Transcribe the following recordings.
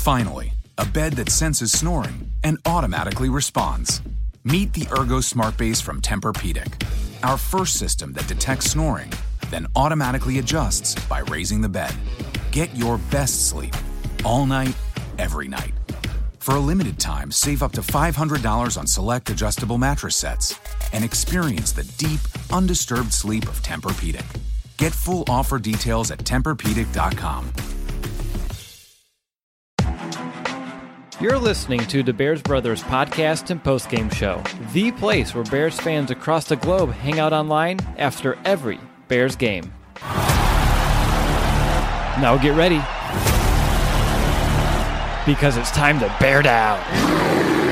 Finally, a bed that senses snoring and automatically responds. Meet the Ergo Smart Base from Tempur-Pedic, our first system that detects snoring, then automatically adjusts by raising the bed. Get your best sleep all night, every night. For a limited time, save up to $500 on select adjustable mattress sets and experience the deep, undisturbed sleep of Tempur-Pedic. Get full offer details at TempurPedic.com. You're listening to the Bears Brothers podcast and postgame show, the place where Bears fans across the globe hang out online after every Bears game. Now get ready, because it's time to bear down.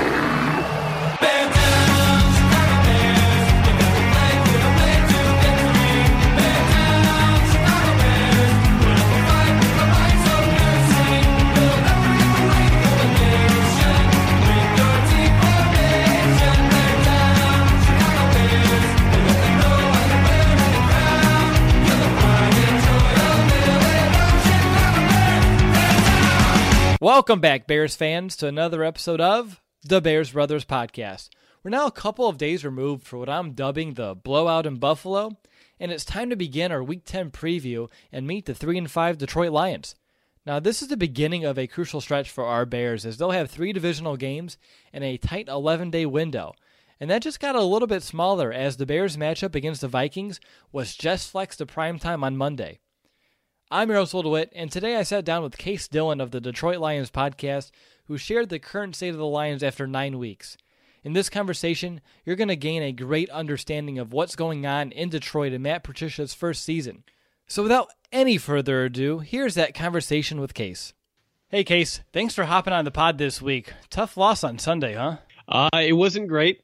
Welcome back, Bears fans, to another episode of the Bears Brothers podcast. We're now a couple of days removed for what I'm dubbing the blowout in Buffalo, and it's time to begin our Week 10 preview and meet the 3-5 Detroit Lions. Now, this is the beginning of a crucial stretch for our Bears, as they'll have 3 divisional games in a tight 11-day window. And that just got a little bit smaller as the Bears' matchup against the Vikings was just flexed to primetime on Monday. I'm Yaroslav DeWitt, and today I sat down with Case Dillon of the Detroit Lions podcast, who shared the current state of the Lions after 9 weeks. In this conversation, you're going to gain a great understanding of what's going on in Detroit in Matt Patricia's first season. So without any further ado, here's that conversation with Case. Hey Case, thanks for hopping on the pod this week. Tough loss on Sunday, huh? It wasn't great.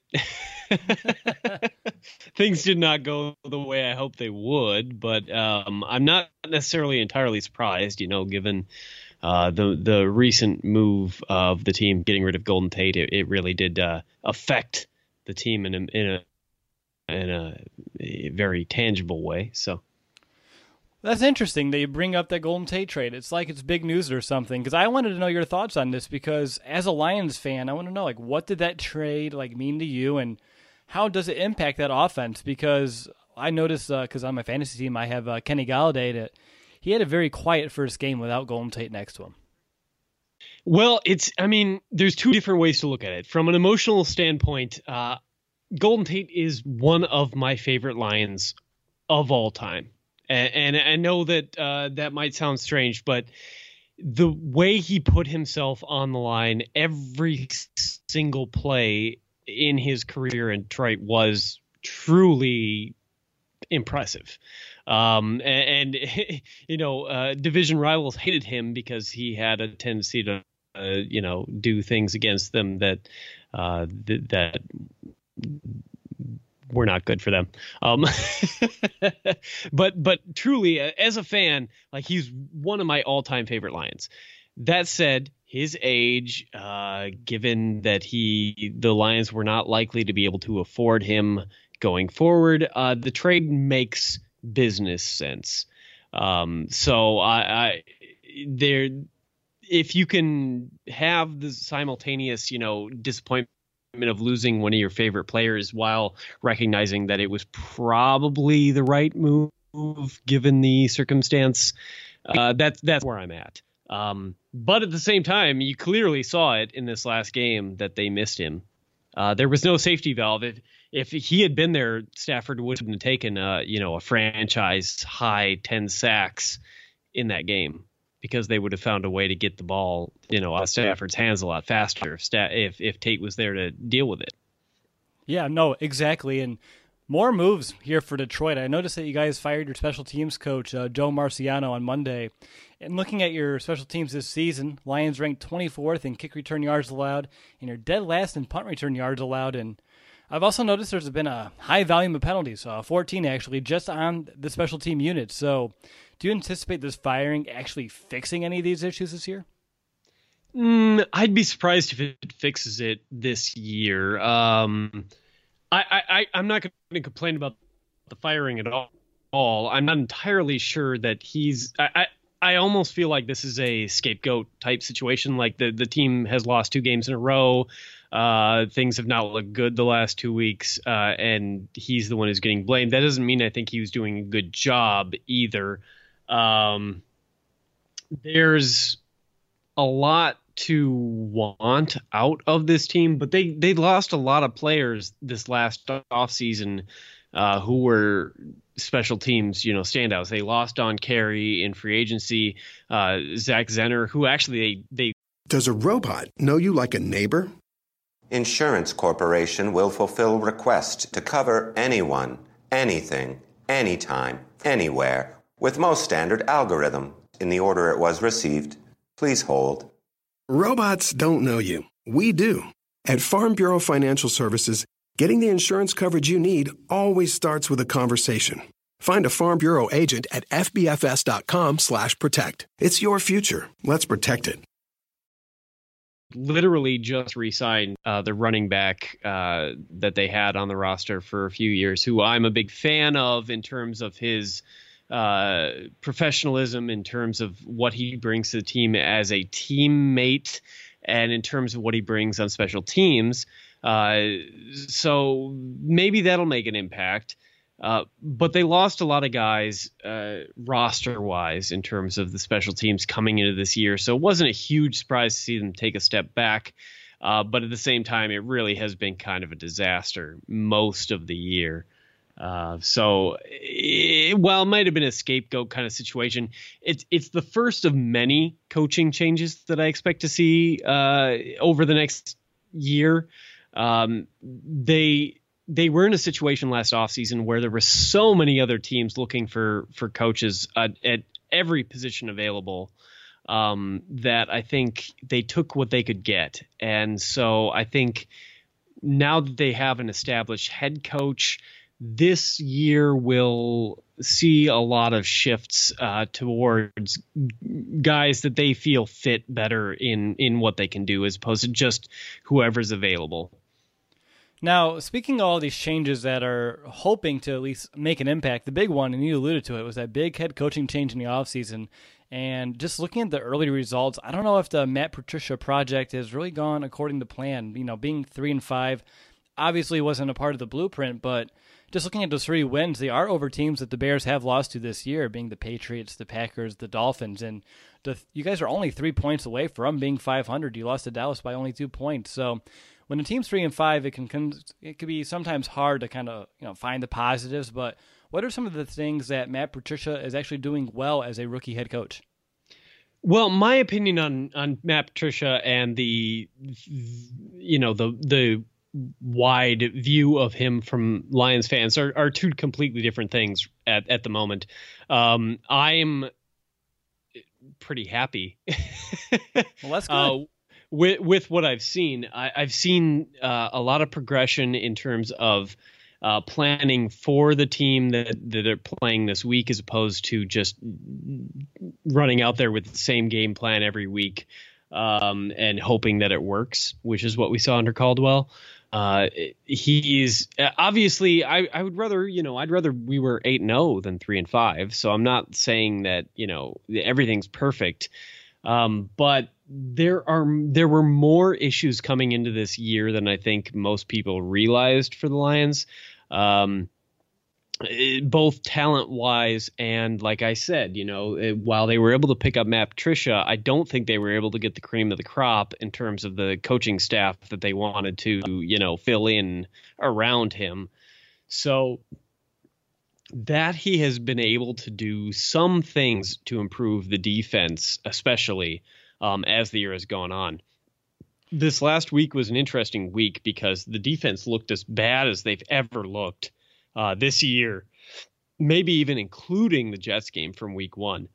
Things did not go the way I hoped they would, but I'm not necessarily entirely surprised, given the recent move of the team getting rid of Golden Tate. It really did affect the team in a very tangible way. So that's interesting that you bring up that Golden Tate trade. It's like it's big news or something, because I wanted to know your thoughts on this, because as a Lions fan, I want to know, what did that trade mean to you, and how does it impact that offense? Because I noticed, because on my fantasy team I have Kenny Golladay, that he had a very quiet first game without Golden Tate next to him. Well, there's two different ways to look at it. From an emotional standpoint, Golden Tate is one of my favorite Lions of all time. And I know that that might sound strange, but the way he put himself on the line every single play in his career in Detroit was truly impressive. Division rivals hated him because he had a tendency to, do things against them that were not good for them. But truly, as a fan, he's one of my all-time favorite Lions. That said, his age, given that the Lions were not likely to be able to afford him going forward, the trade makes business sense. If you can have the simultaneous, disappointment of losing one of your favorite players while recognizing that it was probably the right move given the circumstance, that's where I'm at. But at the same time, you clearly saw it in this last game that they missed him. There was no safety valve. If he had been there, Stafford wouldn't have taken a franchise high 10 sacks in that game, because they would have found a way to get the ball, out of Stafford's hands a lot faster if Tate was there to deal with it. Yeah, no, exactly. And more moves here for Detroit. I noticed that you guys fired your special teams coach, Joe Marciano, on Monday. And looking at your special teams this season, Lions ranked 24th in kick return yards allowed, and you're dead last in punt return yards allowed. And I've also noticed there's been a high volume of penalties, 14 actually, just on the special team unit. So do you anticipate this firing actually fixing any of these issues this year? I'd be surprised if it fixes it this year. I'm not going to complain about the firing at all. I'm not entirely sure that I almost feel like this is a scapegoat type situation. Like the team has lost 2 games in a row. Things have not looked good the last 2 weeks, and he's the one who's getting blamed. That doesn't mean I think he was doing a good job either. There's a lot to want out of this team, but they lost a lot of players this last offseason who were special teams, standouts. They lost Don Carey in free agency, Zach Zenner, who actually they Does a robot know you like a neighbor? Insurance Corporation will fulfill requests to cover anyone, anything, anytime, anywhere, with most standard algorithm in the order it was received. Please hold. Robots don't know you. We do. At Farm Bureau Financial Services, getting the insurance coverage you need always starts with a conversation. Find a Farm Bureau agent at fbfs.com/protect. It's your future. Let's protect it. literally just re-signed the running back that they had on the roster for a few years, who I'm a big fan of in terms of his professionalism, in terms of what he brings to the team as a teammate, and in terms of what he brings on special teams. So maybe that'll make an impact. But they lost a lot of guys roster-wise in terms of the special teams coming into this year. So it wasn't a huge surprise to see them take a step back. But at the same time, it really has been kind of a disaster most of the year. While it might have been a scapegoat kind of situation, it's the first of many coaching changes that I expect to see over the next year. They were in a situation last offseason where there were so many other teams looking for coaches at every position available that I think they took what they could get. And so I think now that they have an established head coach, this year will see a lot of shifts towards guys that they feel fit better in what they can do, as opposed to just whoever's available. Now, speaking of all these changes that are hoping to at least make an impact, the big one, and you alluded to it, was that big head coaching change in the offseason. And just looking at the early results, I don't know if the Matt Patricia project has really gone according to plan. Being 3-5 obviously wasn't a part of the blueprint, but just looking at those 3 wins, they are over teams that the Bears have lost to this year, being the Patriots, the Packers, the Dolphins. And you guys are only 3 points away from being 500. You lost to Dallas by only 2 points. So when a team's 3-5, it can be sometimes hard to kind of find the positives. But what are some of the things that Matt Patricia is actually doing well as a rookie head coach? Well, my opinion on Matt Patricia and the wide view of him from Lions fans are 2 completely different things at the moment. I'm pretty happy. Well, that's good. With what I've seen. I've seen a lot of progression in terms of planning for the team that are playing this week, as opposed to just running out there with the same game plan every week and hoping that it works, which is what we saw under Caldwell. He's obviously, I would rather, I'd rather we were 8-0 than 3-5. So I'm not saying that, everything's perfect. But there were more issues coming into this year than I think most people realized for the Lions. Both talent-wise and, like I said, while they were able to pick up Matt Patricia, I don't think they were able to get the cream of the crop in terms of the coaching staff that they wanted to, fill in around him. So that he has been able to do some things to improve the defense, especially as the year has gone on. This last week was an interesting week because the defense looked as bad as they've ever looked this year, maybe even including the Jets game from week 1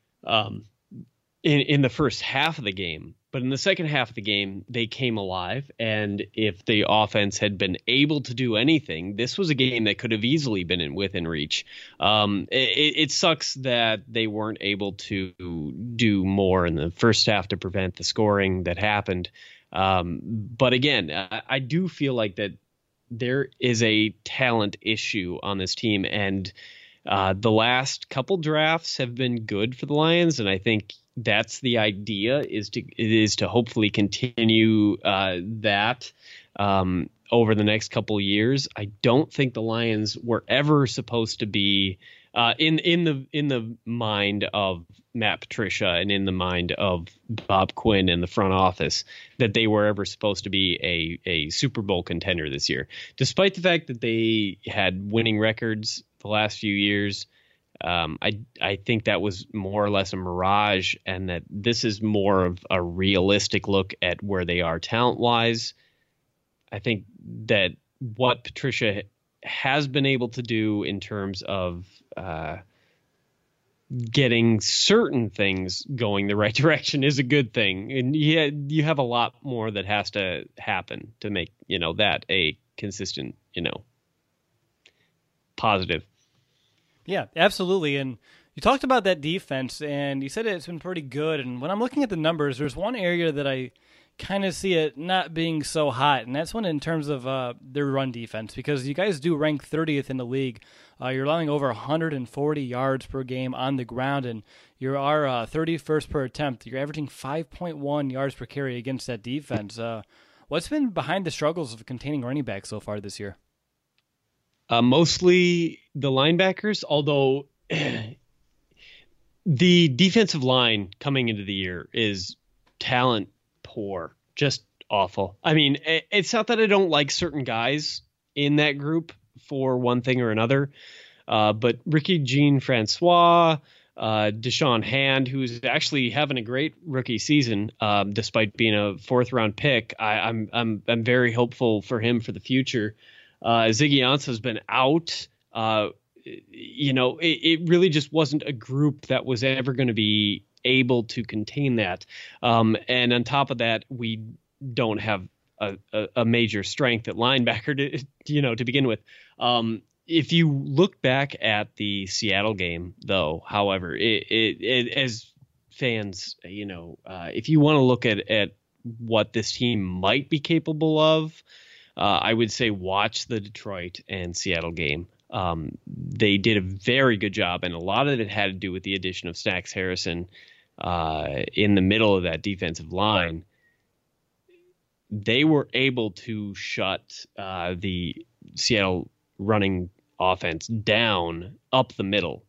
in the first half of the game. But in the second half of the game, they came alive. And if the offense had been able to do anything, this was a game that could have easily been within reach. It sucks that they weren't able to do more in the first half to prevent the scoring that happened. But again, I do feel like that there is a talent issue on this team, and The last couple drafts have been good for the Lions, and I think that's the idea is to hopefully continue that over the next couple years. I don't think the Lions were ever supposed to be in the mind of Matt Patricia and in the mind of Bob Quinn and the front office that they were ever supposed to be a Super Bowl contender this year, despite the fact that they had winning records the last few years. I think that was more or less a mirage, and that this is more of a realistic look at where they are talent-wise. I think that what Patricia has been able to do in terms of getting certain things going the right direction is a good thing. And you have a lot more that has to happen to make, that a consistent, positive. Yeah, absolutely. And you talked about that defense, and you said it's been pretty good. And when I'm looking at the numbers, there's one area that I kind of see it not being so hot, and that's one in terms of their run defense, because you guys do rank 30th in the league. You're allowing over 140 yards per game on the ground, and you are 31st per attempt. You're averaging 5.1 yards per carry against that defense. What's been behind the struggles of containing running backs so far this year? Mostly the linebackers, although the defensive line coming into the year is talent poor, just awful. I mean, it's not that I don't like certain guys in that group for one thing or another, but Ricky Jean-Francois, Deshaun Hand, who's actually having a great rookie season, despite being a 4th-round pick. I'm very hopeful for him for the future. Ziggy Ansah's been out. It really just wasn't a group that was ever going to be able to contain that. And on top of that, we don't have a major strength at linebacker to begin with. If you look back at the Seattle game, though, however, it as fans, if you want to look at what this team might be capable of, I would say watch the Detroit and Seattle game. They did a very good job, and a lot of it had to do with the addition of Snacks Harrison in the middle of that defensive line. They were able to shut the Seattle running offense down up the middle.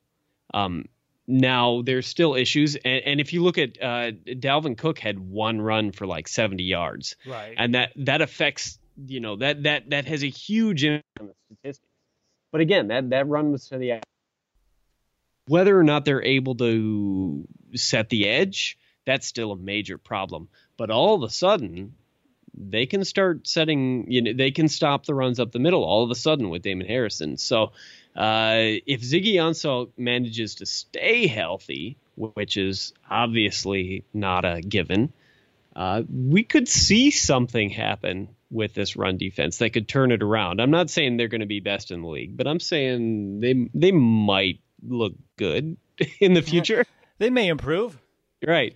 Now, there's still issues, and if you look at Dalvin Cook had one run for like 70 yards, right, and that affects, that has a huge impact on the statistics. But again, that run was to the whether or not they're able to set the edge, that's still a major problem. But all of a sudden, they can start setting, they can stop the runs up the middle all of a sudden with Damon Harrison. So if Ziggy Ansah manages to stay healthy, which is obviously not a given, we could see something happen with this run defense that could turn it around. I'm not saying they're going to be best in the league, but I'm saying they might look good in the future. They may improve. Right.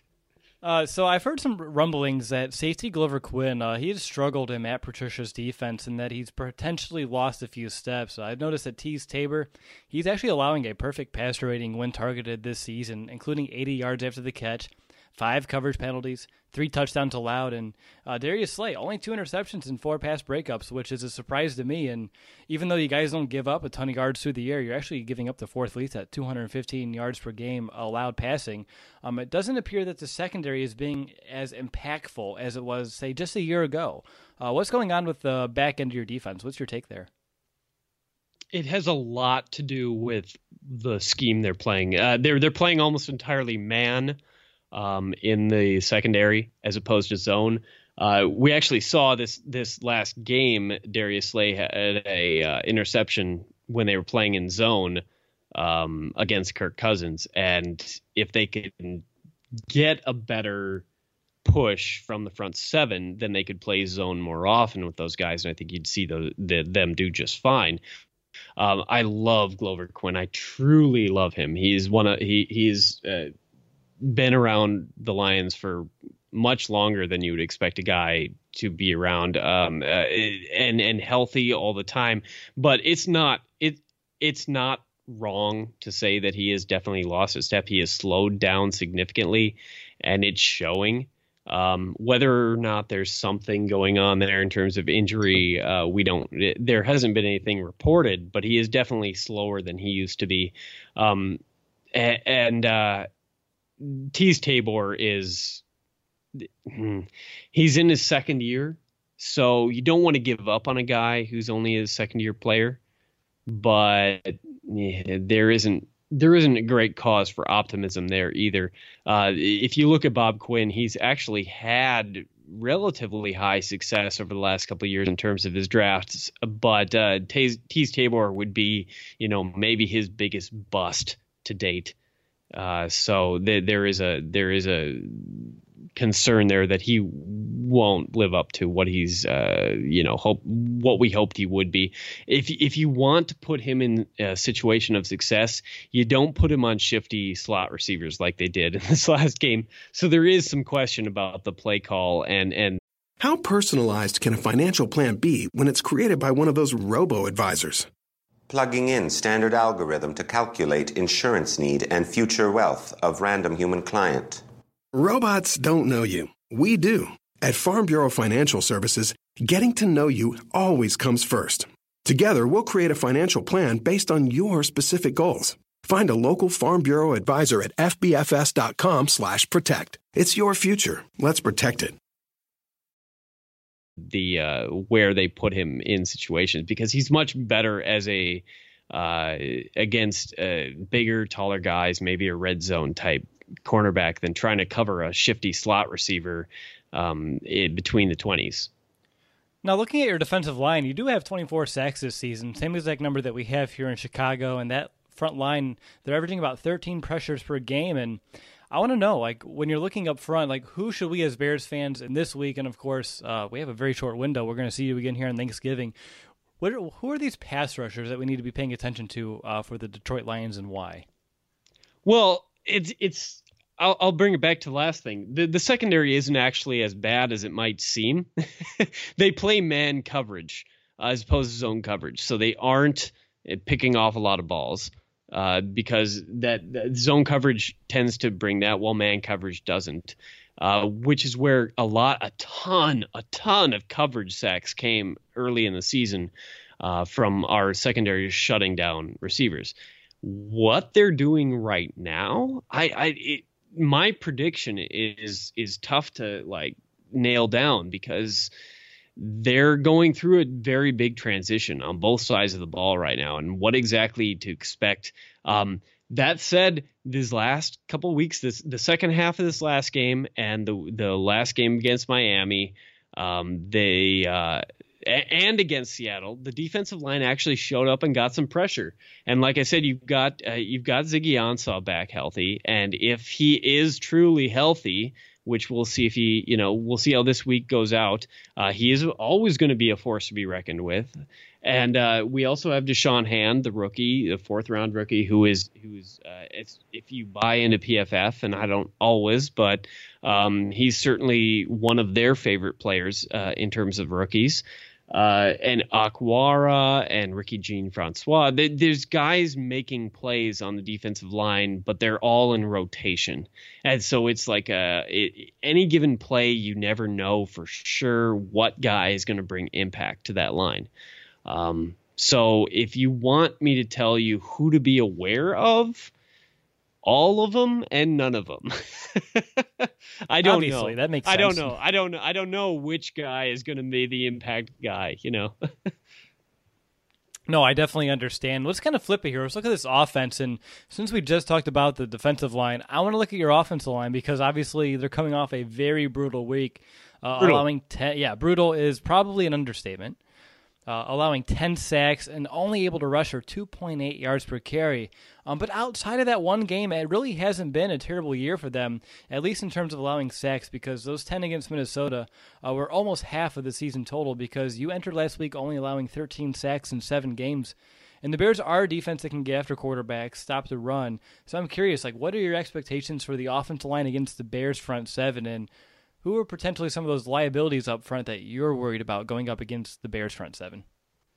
So I've heard some rumblings that safety Glover Quinn, he has struggled in Matt Patricia's defense and that he's potentially lost a few steps. I've noticed that Teez Tabor, he's actually allowing a perfect passer rating when targeted this season, including 80 yards after the catch, 5 coverage penalties, 3 touchdowns allowed, and Darius Slay, only 2 interceptions and 4 pass breakups, which is a surprise to me. And even though you guys don't give up a ton of yards through the air, you're actually giving up the 4th least at 215 yards per game allowed passing. It doesn't appear that the secondary is being as impactful as it was, say, just a year ago. What's going on with the back end of your defense? What's your take there? It has a lot to do with the scheme they're playing. They're playing almost entirely man in the secondary as opposed to zone. We actually saw this last game. Darius Slay had a interception when they were playing in zone against Kirk Cousins, and if they could get a better push from the front 7, then they could play zone more often with those guys, and I think you'd see them do just fine. I love Glover Quinn. I truly love him. He's he's been around the Lions for much longer than you would expect a guy to be around, and healthy all the time. But it's not wrong to say that he has definitely lost a step. He has slowed down significantly, and it's showing. Whether or not there's something going on there in terms of injury, there hasn't been anything reported, but he is definitely slower than he used to be. Tease Tabor is, he's in his second year, so you don't want to give up on a guy who's only a second year player, but there isn't a great cause for optimism there either. If you look at Bob Quinn, he's actually had relatively high success over the last couple of years in terms of his drafts, but Tease Tabor would be, maybe his biggest bust to date. So there is a concern there that he won't live up to what he's what we hoped he would be. If you want to put him in a situation of success, you don't put him on shifty slot receivers like they did in this last game. So there is some question about the play call and How personalized can a financial plan be when it's created by one of those robo-advisors? Plugging in standard algorithm to calculate insurance need and future wealth of random human client. Robots don't know you. We do. At Farm Bureau Financial Services, getting to know you always comes first. Together, we'll create a financial plan based on your specific goals. Find a local Farm Bureau advisor at fbfs.com/protect. It's your future. Let's protect it. Where they put him in situations, because he's much better as a against bigger, taller guys, maybe a red zone type cornerback, than trying to cover a shifty slot receiver between the 20s. Now, looking at your defensive line, you do have 24 sacks this season, same exact number that we have here in Chicago, and that front line, they're averaging about 13 pressures per game. And I want to know, when you're looking up front, who should we as Bears fans in this week, and of course, we have a very short window. We're going to see you again here on Thanksgiving. Who are these pass rushers that we need to be paying attention to for the Detroit Lions, and why? Well, I'll bring it back to the last thing. The secondary isn't actually as bad as it might seem. They play man coverage as opposed to zone coverage, so they aren't picking off a lot of balls. Because that zone coverage tends to bring that, while man coverage doesn't, which is where a ton of coverage sacks came early in the season from our secondary shutting down receivers. What they're doing right now, my prediction is tough to nail down, because they're going through a very big transition on both sides of the ball right now, and what exactly to expect. That said, these last couple of weeks, the second half of this last game and the last game against Miami, and against Seattle, the defensive line actually showed up and got some pressure. And like I said, you've got Ziggy Ansah back healthy, and if he is truly healthy, which we'll see we'll see how this week goes out. He is always going to be a force to be reckoned with. And we also have Deshaun Hand, the rookie, the 4th round rookie, who is if you buy into PFF, and I don't always, but he's certainly one of their favorite players in terms of rookies. And Aquara and Ricky Jean-Francois. There's guys making plays on the defensive line, but they're all in rotation. And so it's any given play, you never know for sure what guy is going to bring impact to that line. So if you want me to tell you who to be aware of, all of them and none of them. I don't Obviously, know. That makes sense. I don't know which guy is going to be the impact guy, No, I definitely understand. Let's kind of flip it here. Let's look at this offense. And since we just talked about the defensive line, I want to look at your offensive line, because obviously they're coming off a very brutal week. Brutal is probably an understatement. Allowing 10 sacks and only able to rush for 2.8 yards per carry. But outside of that one game, it really hasn't been a terrible year for them, at least in terms of allowing sacks, because those 10 against Minnesota were almost half of the season total, because you entered last week only allowing 13 sacks in 7 games. And the Bears are a defense that can get after quarterbacks, stop the run. So I'm curious, what are your expectations for the offensive line against the Bears front 7, and who are potentially some of those liabilities up front that you're worried about going up against the Bears front 7?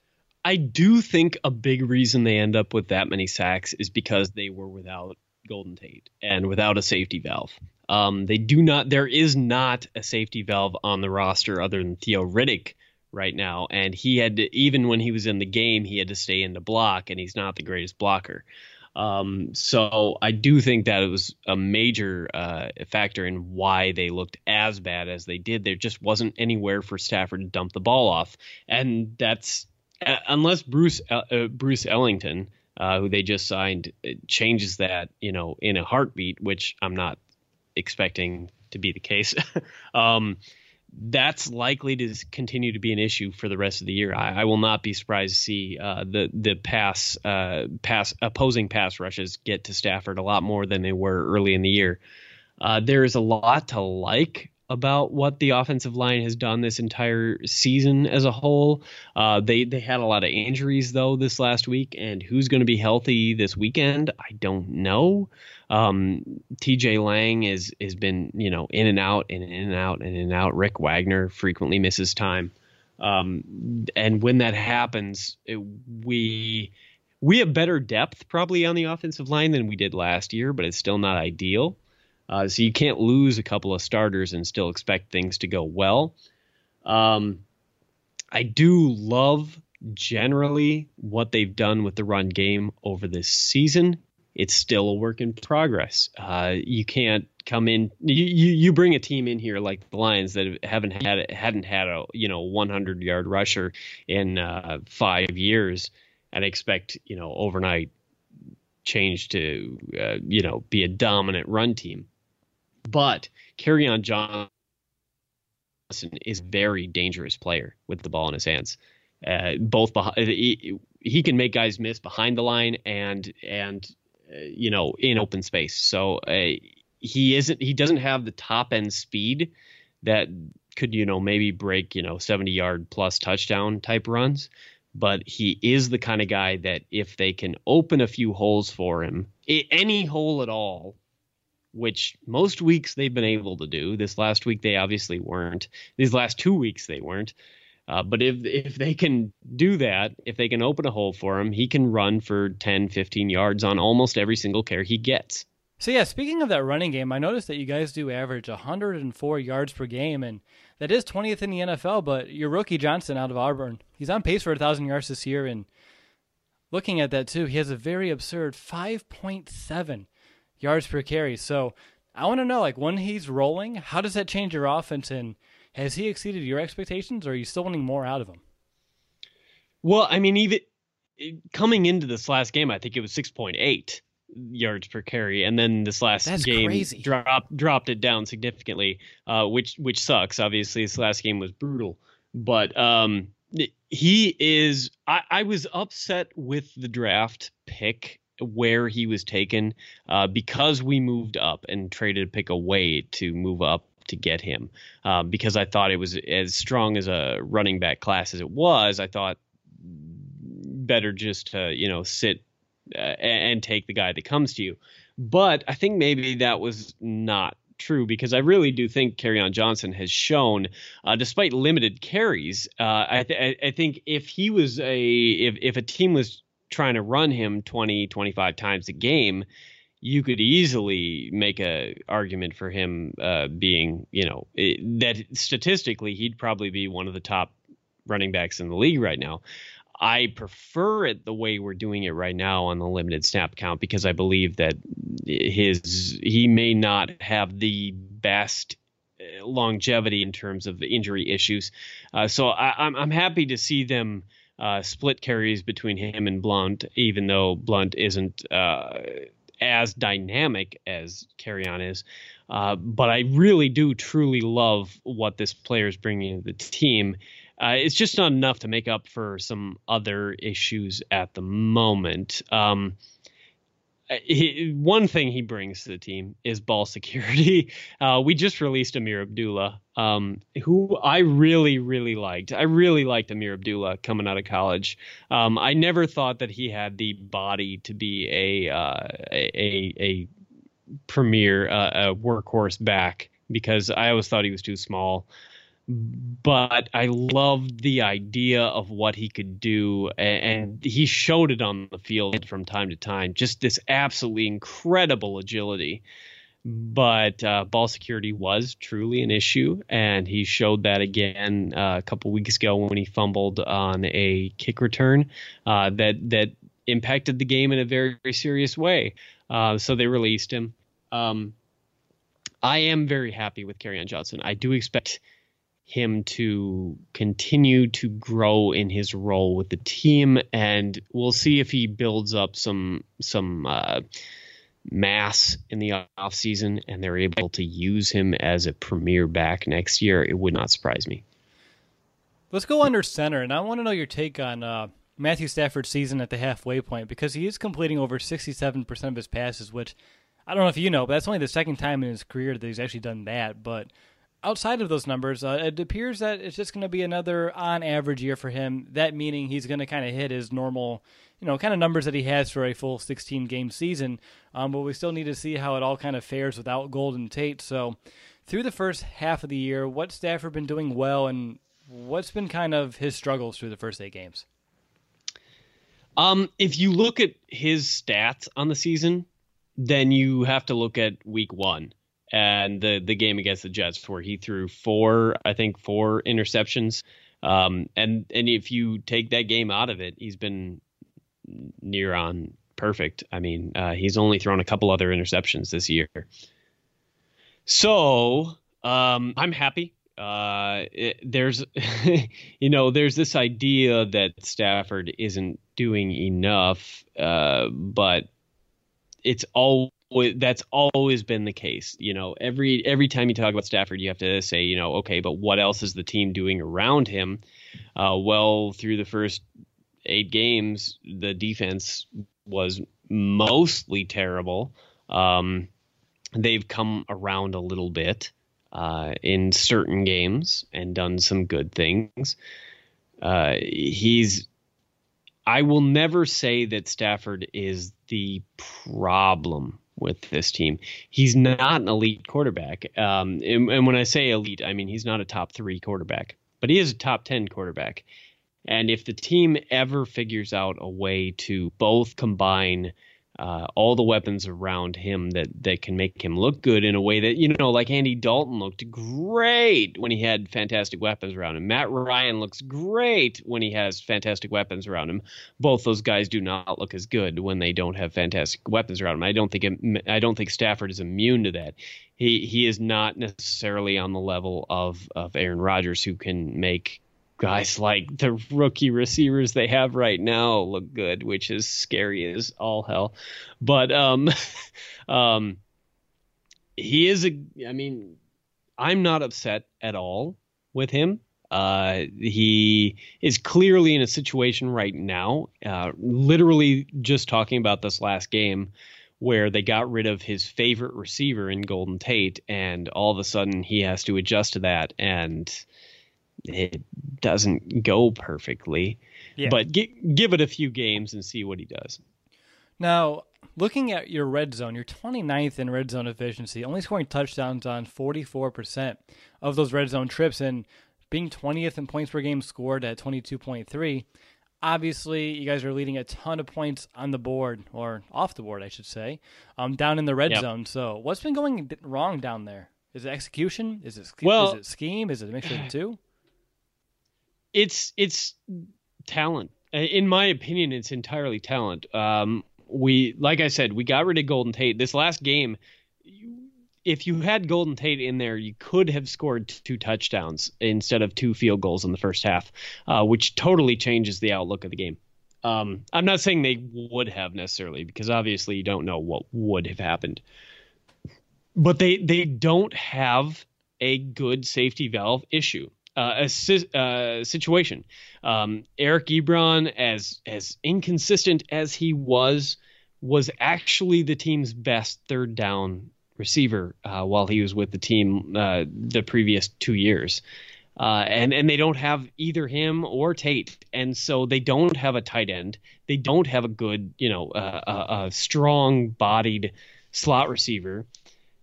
I do think a big reason they end up with that many sacks is because they were without Golden Tate and without a safety valve. There is not a safety valve on the roster other than Theo Riddick right now. And he had to, even when he was in the game, he had to stay in the block, and he's not the greatest blocker. So I do think that it was a major factor in why they looked as bad as they did. There just wasn't anywhere for Stafford to dump the ball off. And that's unless Bruce Ellington, who they just signed, changes that, in a heartbeat, which I'm not expecting to be the case. That's likely to continue to be an issue for the rest of the year. I will not be surprised to see the opposing pass rushes get to Stafford a lot more than they were early in the year. There is a lot to like about what the offensive line has done this entire season as a whole. They had a lot of injuries though this last week, and who's going to be healthy this weekend, I don't know. TJ Lang has been, in and out and in and out and in and out. Rick Wagner frequently misses time. And when that happens, we have better depth probably on the offensive line than we did last year, but it's still not ideal. So you can't lose a couple of starters and still expect things to go well. I do love generally what they've done with the run game over this season. It's still a work in progress. You can't come in. You bring a team in here like the Lions that hadn't had a 100-yard rusher in 5 years and expect overnight change to be a dominant run team. But Kerryon Johnson is a very dangerous player with the ball in his hands. Both he can make guys miss behind the line and in open space. So he doesn't have the top end speed that could maybe break 70-yard plus touchdown type runs. But he is the kind of guy that if they can open a few holes for him, any hole at all, which most weeks they've been able to do. This last week they obviously weren't. These last 2 weeks they weren't. But if they can do that, if they can open a hole for him, he can run for 10, 15 yards on almost every single carry he gets. So yeah, speaking of that running game, I noticed that you guys do average 104 yards per game, and that is 20th in the NFL, but your rookie Johnson out of Auburn, he's on pace for 1,000 yards this year, and looking at that too, he has a very absurd 5.7 yards per carry. So I want to know, when he's rolling, how does that change your offense, and has he exceeded your expectations, or are you still wanting more out of him? Well, I mean, even coming into this last game, I think it was 6.8 yards per carry, and then this last game crazy. dropped it down significantly, which sucks. Obviously, this last game was brutal, but he is. I was upset with the draft pick where he was taken because we moved up and traded a pick away to move up to get him, because I thought it was as strong as a running back class as it was. I thought better just to sit and take the guy that comes to you. But I think maybe that was not true, because I really do think Kerryon Johnson has shown, despite limited carries, I think if he was if a team was trying to run him 20, 25 times a game, you could easily make a argument for him being, that statistically he'd probably be one of the top running backs in the league right now. I prefer it the way we're doing it right now on the limited snap count, because I believe that he may not have the best longevity in terms of injury issues. So I'm happy to see them split carries between him and Blount, even though Blount isn't as dynamic as Kerryon is. But I really do truly love what this player is bringing to the team. It's just not enough to make up for some other issues at the moment. One thing he brings to the team is ball security. We just released Amir Abdullah, who I really, really liked. I really liked Amir Abdullah coming out of college. I never thought that he had the body to be a premier workhorse back, because I always thought he was too small. but I loved the idea of what he could do, and he showed it on the field from time to time. Just this absolutely incredible agility. But ball security was truly an issue, and he showed that again a couple weeks ago when he fumbled on a kick return that impacted the game in a very, very serious way. So they released him. I am very happy with Kerryon Johnson. I do expect him to continue to grow in his role with the team, and we'll see if he builds up some mass in the offseason and they're able to use him as a premier back next year. It would not surprise me. Let's go under center, and I want to know your take on Matthew Stafford's season at the halfway point, because he is completing over 67% of his passes, which I don't know if you know, but that's only the second time in his career that he's actually done that. But outside of those numbers, it appears that it's just going to be another on-average year for him, that meaning he's going to kind of hit his normal kind of numbers that he has for a full 16-game season, but we still need to see how it all kind of fares without Golden Tate. So through the first half of the year, what's Stafford been doing well, and what's been kind of his struggles through the first 8 games? If you look at his stats on the season, then you have to look at week 1 and the game against the Jets, where he threw 4 interceptions. And if you take that game out of it, he's been near on perfect. I mean, he's only thrown a couple other interceptions this year. So I'm happy. There's this idea that Stafford isn't doing enough, but that's always been the case. Every time you talk about Stafford, you have to say, okay, but what else is the team doing around him? Well, through the first 8 games, the defense was mostly terrible. They've come around a little bit in certain games and done some good things. I will never say that Stafford is the problem with this team. He's not an elite quarterback. And when I say elite, I mean he's not a top 3 quarterback, but he is a top 10 quarterback. And if the team ever figures out a way to both combine all the weapons around him that can make him look good in a way that, like Andy Dalton looked great when he had fantastic weapons around him. Matt Ryan looks great when he has fantastic weapons around him. Both those guys do not look as good when they don't have fantastic weapons around him. I don't think Stafford is immune to that. He is not necessarily on the level of Aaron Rodgers, who can make guys like the rookie receivers they have right now look good, which is scary as all hell. But he is I'm not upset at all with him. He is clearly in a situation right now, literally just talking about this last game, where they got rid of his favorite receiver in Golden Tate, and all of a sudden he has to adjust to that, and it doesn't go perfectly. Yeah. But give it a few games and see what he does. Now, looking at your red zone, you're 29th in red zone efficiency, only scoring touchdowns on 44% of those red zone trips, and being 20th in points per game scored at 22.3. Obviously, you guys are leading a ton of points on the board, or off the board, I should say, down in the red zone. So what's been going wrong down there? Is it execution? Is it scheme? Is it a mixture of the two? It's talent. In my opinion, it's entirely talent. Like I said, we got rid of Golden Tate. This last game, if you had Golden Tate in there, you could have scored 2 touchdowns instead of 2 field goals in the first half, which totally changes the outlook of the game. I'm not saying they would have necessarily, because obviously you don't know what would have happened. But they don't have a good safety valve issue. Situation. Eric Ebron, as inconsistent as he was actually the team's best third down receiver while he was with the team the previous 2 years. And they don't have either him or Tate. And so they don't have a tight end. They don't have a good, a strong bodied slot receiver.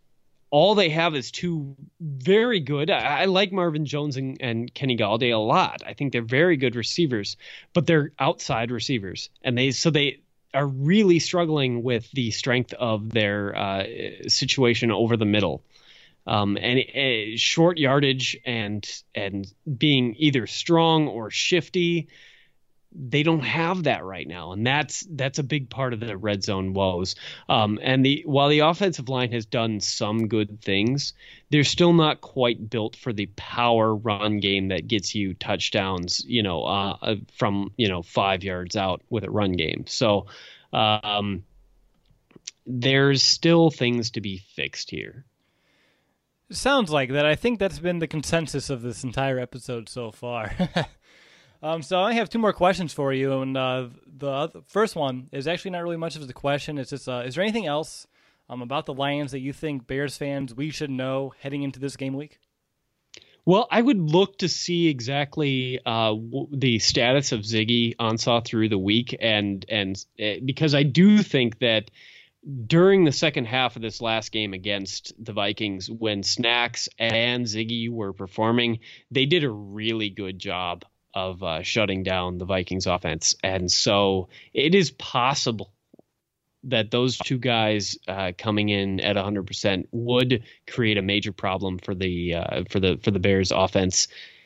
all they have is two very good. I like Marvin Jones and Kenny Galladay a lot. I think they're very good receivers, but they're outside receivers, and they are really struggling with the strength of their situation over the middle, and short yardage and being either strong or shifty. They don't have that right now, and that's a big part of the red zone woes. And while the offensive line has done some good things, they're still not quite built for the power run game that gets you touchdowns, from 5 yards out with a run game. So there's still things to be fixed here. Sounds like that. I think that's been the consensus of this entire episode so far. So I have two more questions for you, and the first one is actually not really much of a question. It's just, is there anything else about the Lions that you think Bears fans we should know heading into this game week? Well, I would look to see exactly the status of Ziggy Ansah through the week, and because I do think that during the second half of this last game against the Vikings, when Snacks and Ziggy were performing, they did a really good job of shutting down the Vikings offense. And so it is possible that those two guys coming in at 100% would create a major problem for the Bears offense.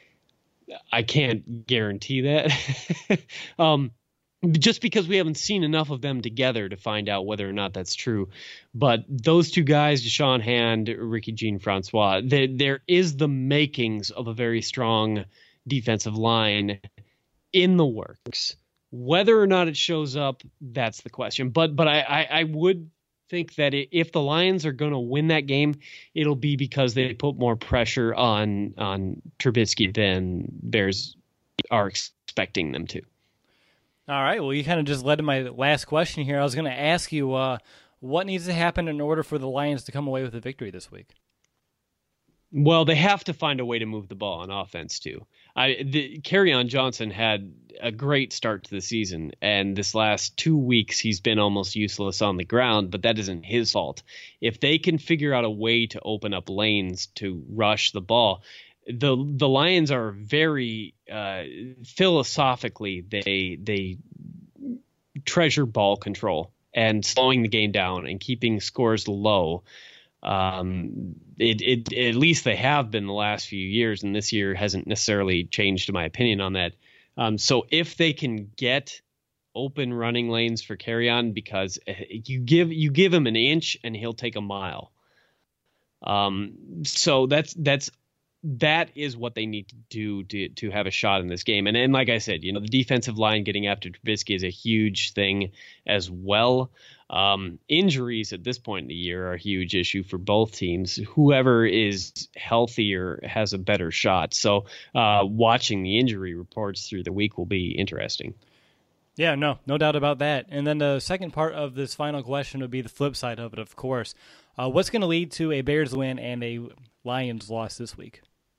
I can't guarantee that. Just because we haven't seen enough of them together to find out whether or not that's true. But those two guys, Deshaun Hand, Ricky Jean-Francois, there is the makings of a very strong defensive line in the works. Whether or not it shows up, that's the question. But I would think that if the Lions are going to win that game, it'll be because they put more pressure on Trubisky than Bears are expecting them to. All right. Well, you kind of just led to my last question here. I was going to ask you what needs to happen in order for the Lions to come away with a victory this week. Well, they have to find a way to move the ball on offense too. Kerryon Johnson had a great start to the season, and this last 2 weeks he's been almost useless on the ground, but that isn't his fault. If they can figure out a way to open up lanes to rush the ball, the Lions are very philosophically they treasure ball control and slowing the game down and keeping scores low. At least they have been the last few years, and this year hasn't necessarily changed my opinion on that. So if they can get open running lanes for Kerryon, because you give him an inch and he'll take a mile. So that is what they need to do to have a shot in this game. And like I said, the defensive line getting after Trubisky is a huge thing as well. Injuries at this point in the year are a huge issue for both teams. Whoever is healthier has a better shot. So watching the injury reports through the week will be interesting. Yeah, no doubt about that. And then the second part of this final question would be the flip side of it, of course. What's going to lead to a Bears win and a Lions loss this week?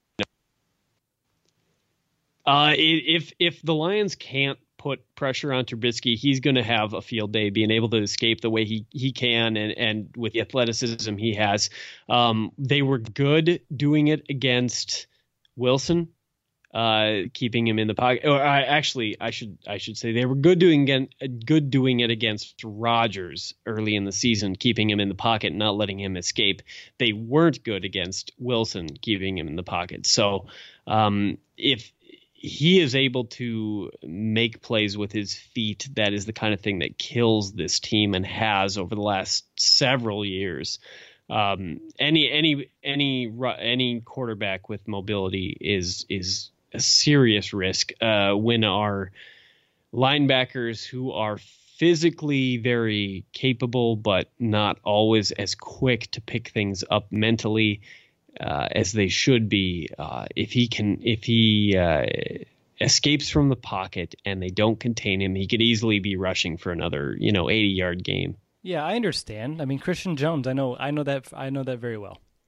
If the Lions can't put pressure on Trubisky, he's going to have a field day, being able to escape the way he can and with the athleticism he has. They were good doing it against Wilson, keeping him in the pocket. Or I should say they were good doing it against Rodgers early in the season, keeping him in the pocket and not letting him escape. They weren't good against Wilson, keeping him in the pocket. So if he is able to make plays with his feet, that is the kind of thing that kills this team and has over the last several years. Any quarterback with mobility is a serious risk when our linebackers, who are physically very capable but not always as quick to pick things up mentally as they should be, if he escapes from the pocket and they don't contain him, he could easily be rushing for another 80-yard game. Yeah, I understand. I mean, Christian Jones, I know that very well.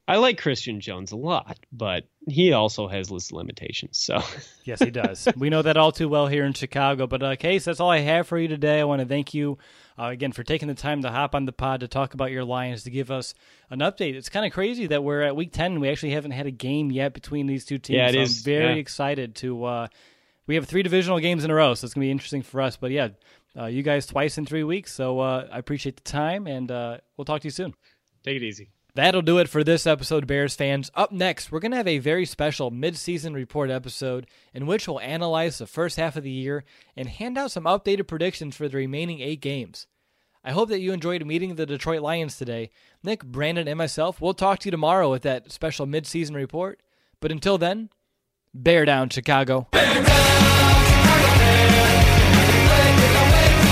I like Christian Jones a lot, but he also has his limitations. So yes, he does. We know that all too well here in Chicago. But Case, that's all I have for you today. I want to thank you again for taking the time to hop on the pod to talk about your Lions, to give us an update. It's kind of crazy that we're at week 10 and we actually haven't had a game yet between these two teams. Yeah, it so is. I'm very excited to. We have 3 divisional games in a row, so it's going to be interesting for us. But yeah, you guys twice in 3 weeks. So I appreciate the time, and we'll talk to you soon. Take it easy. That'll do it for this episode, Bears fans. Up next, we're going to have a very special mid-season report episode in which we'll analyze the first half of the year and hand out some updated predictions for the remaining 8 games. I hope that you enjoyed meeting the Detroit Lions today. Nick, Brandon, and myself, we'll talk to you tomorrow with that special mid-season report. But until then, bear down, Chicago. Bear down, Chicago Bears.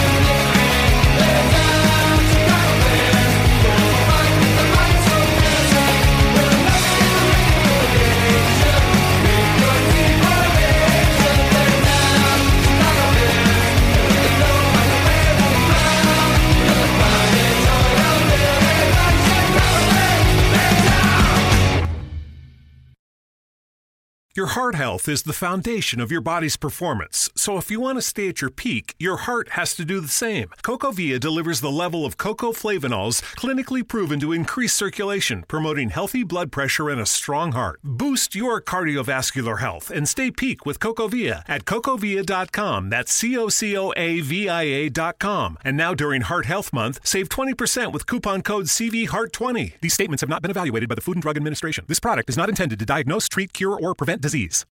Your heart health is the foundation of your body's performance. So if you want to stay at your peak, your heart has to do the same. CocoVia delivers the level of cocoflavanols clinically proven to increase circulation, promoting healthy blood pressure and a strong heart. Boost your cardiovascular health and stay peak with CocoVia at cocovia.com. That's CocoAVIA.com. And now during Heart Health Month, save 20% with coupon code CVHEART20. These statements have not been evaluated by the Food and Drug Administration. This product is not intended to diagnose, treat, cure, or prevent disease.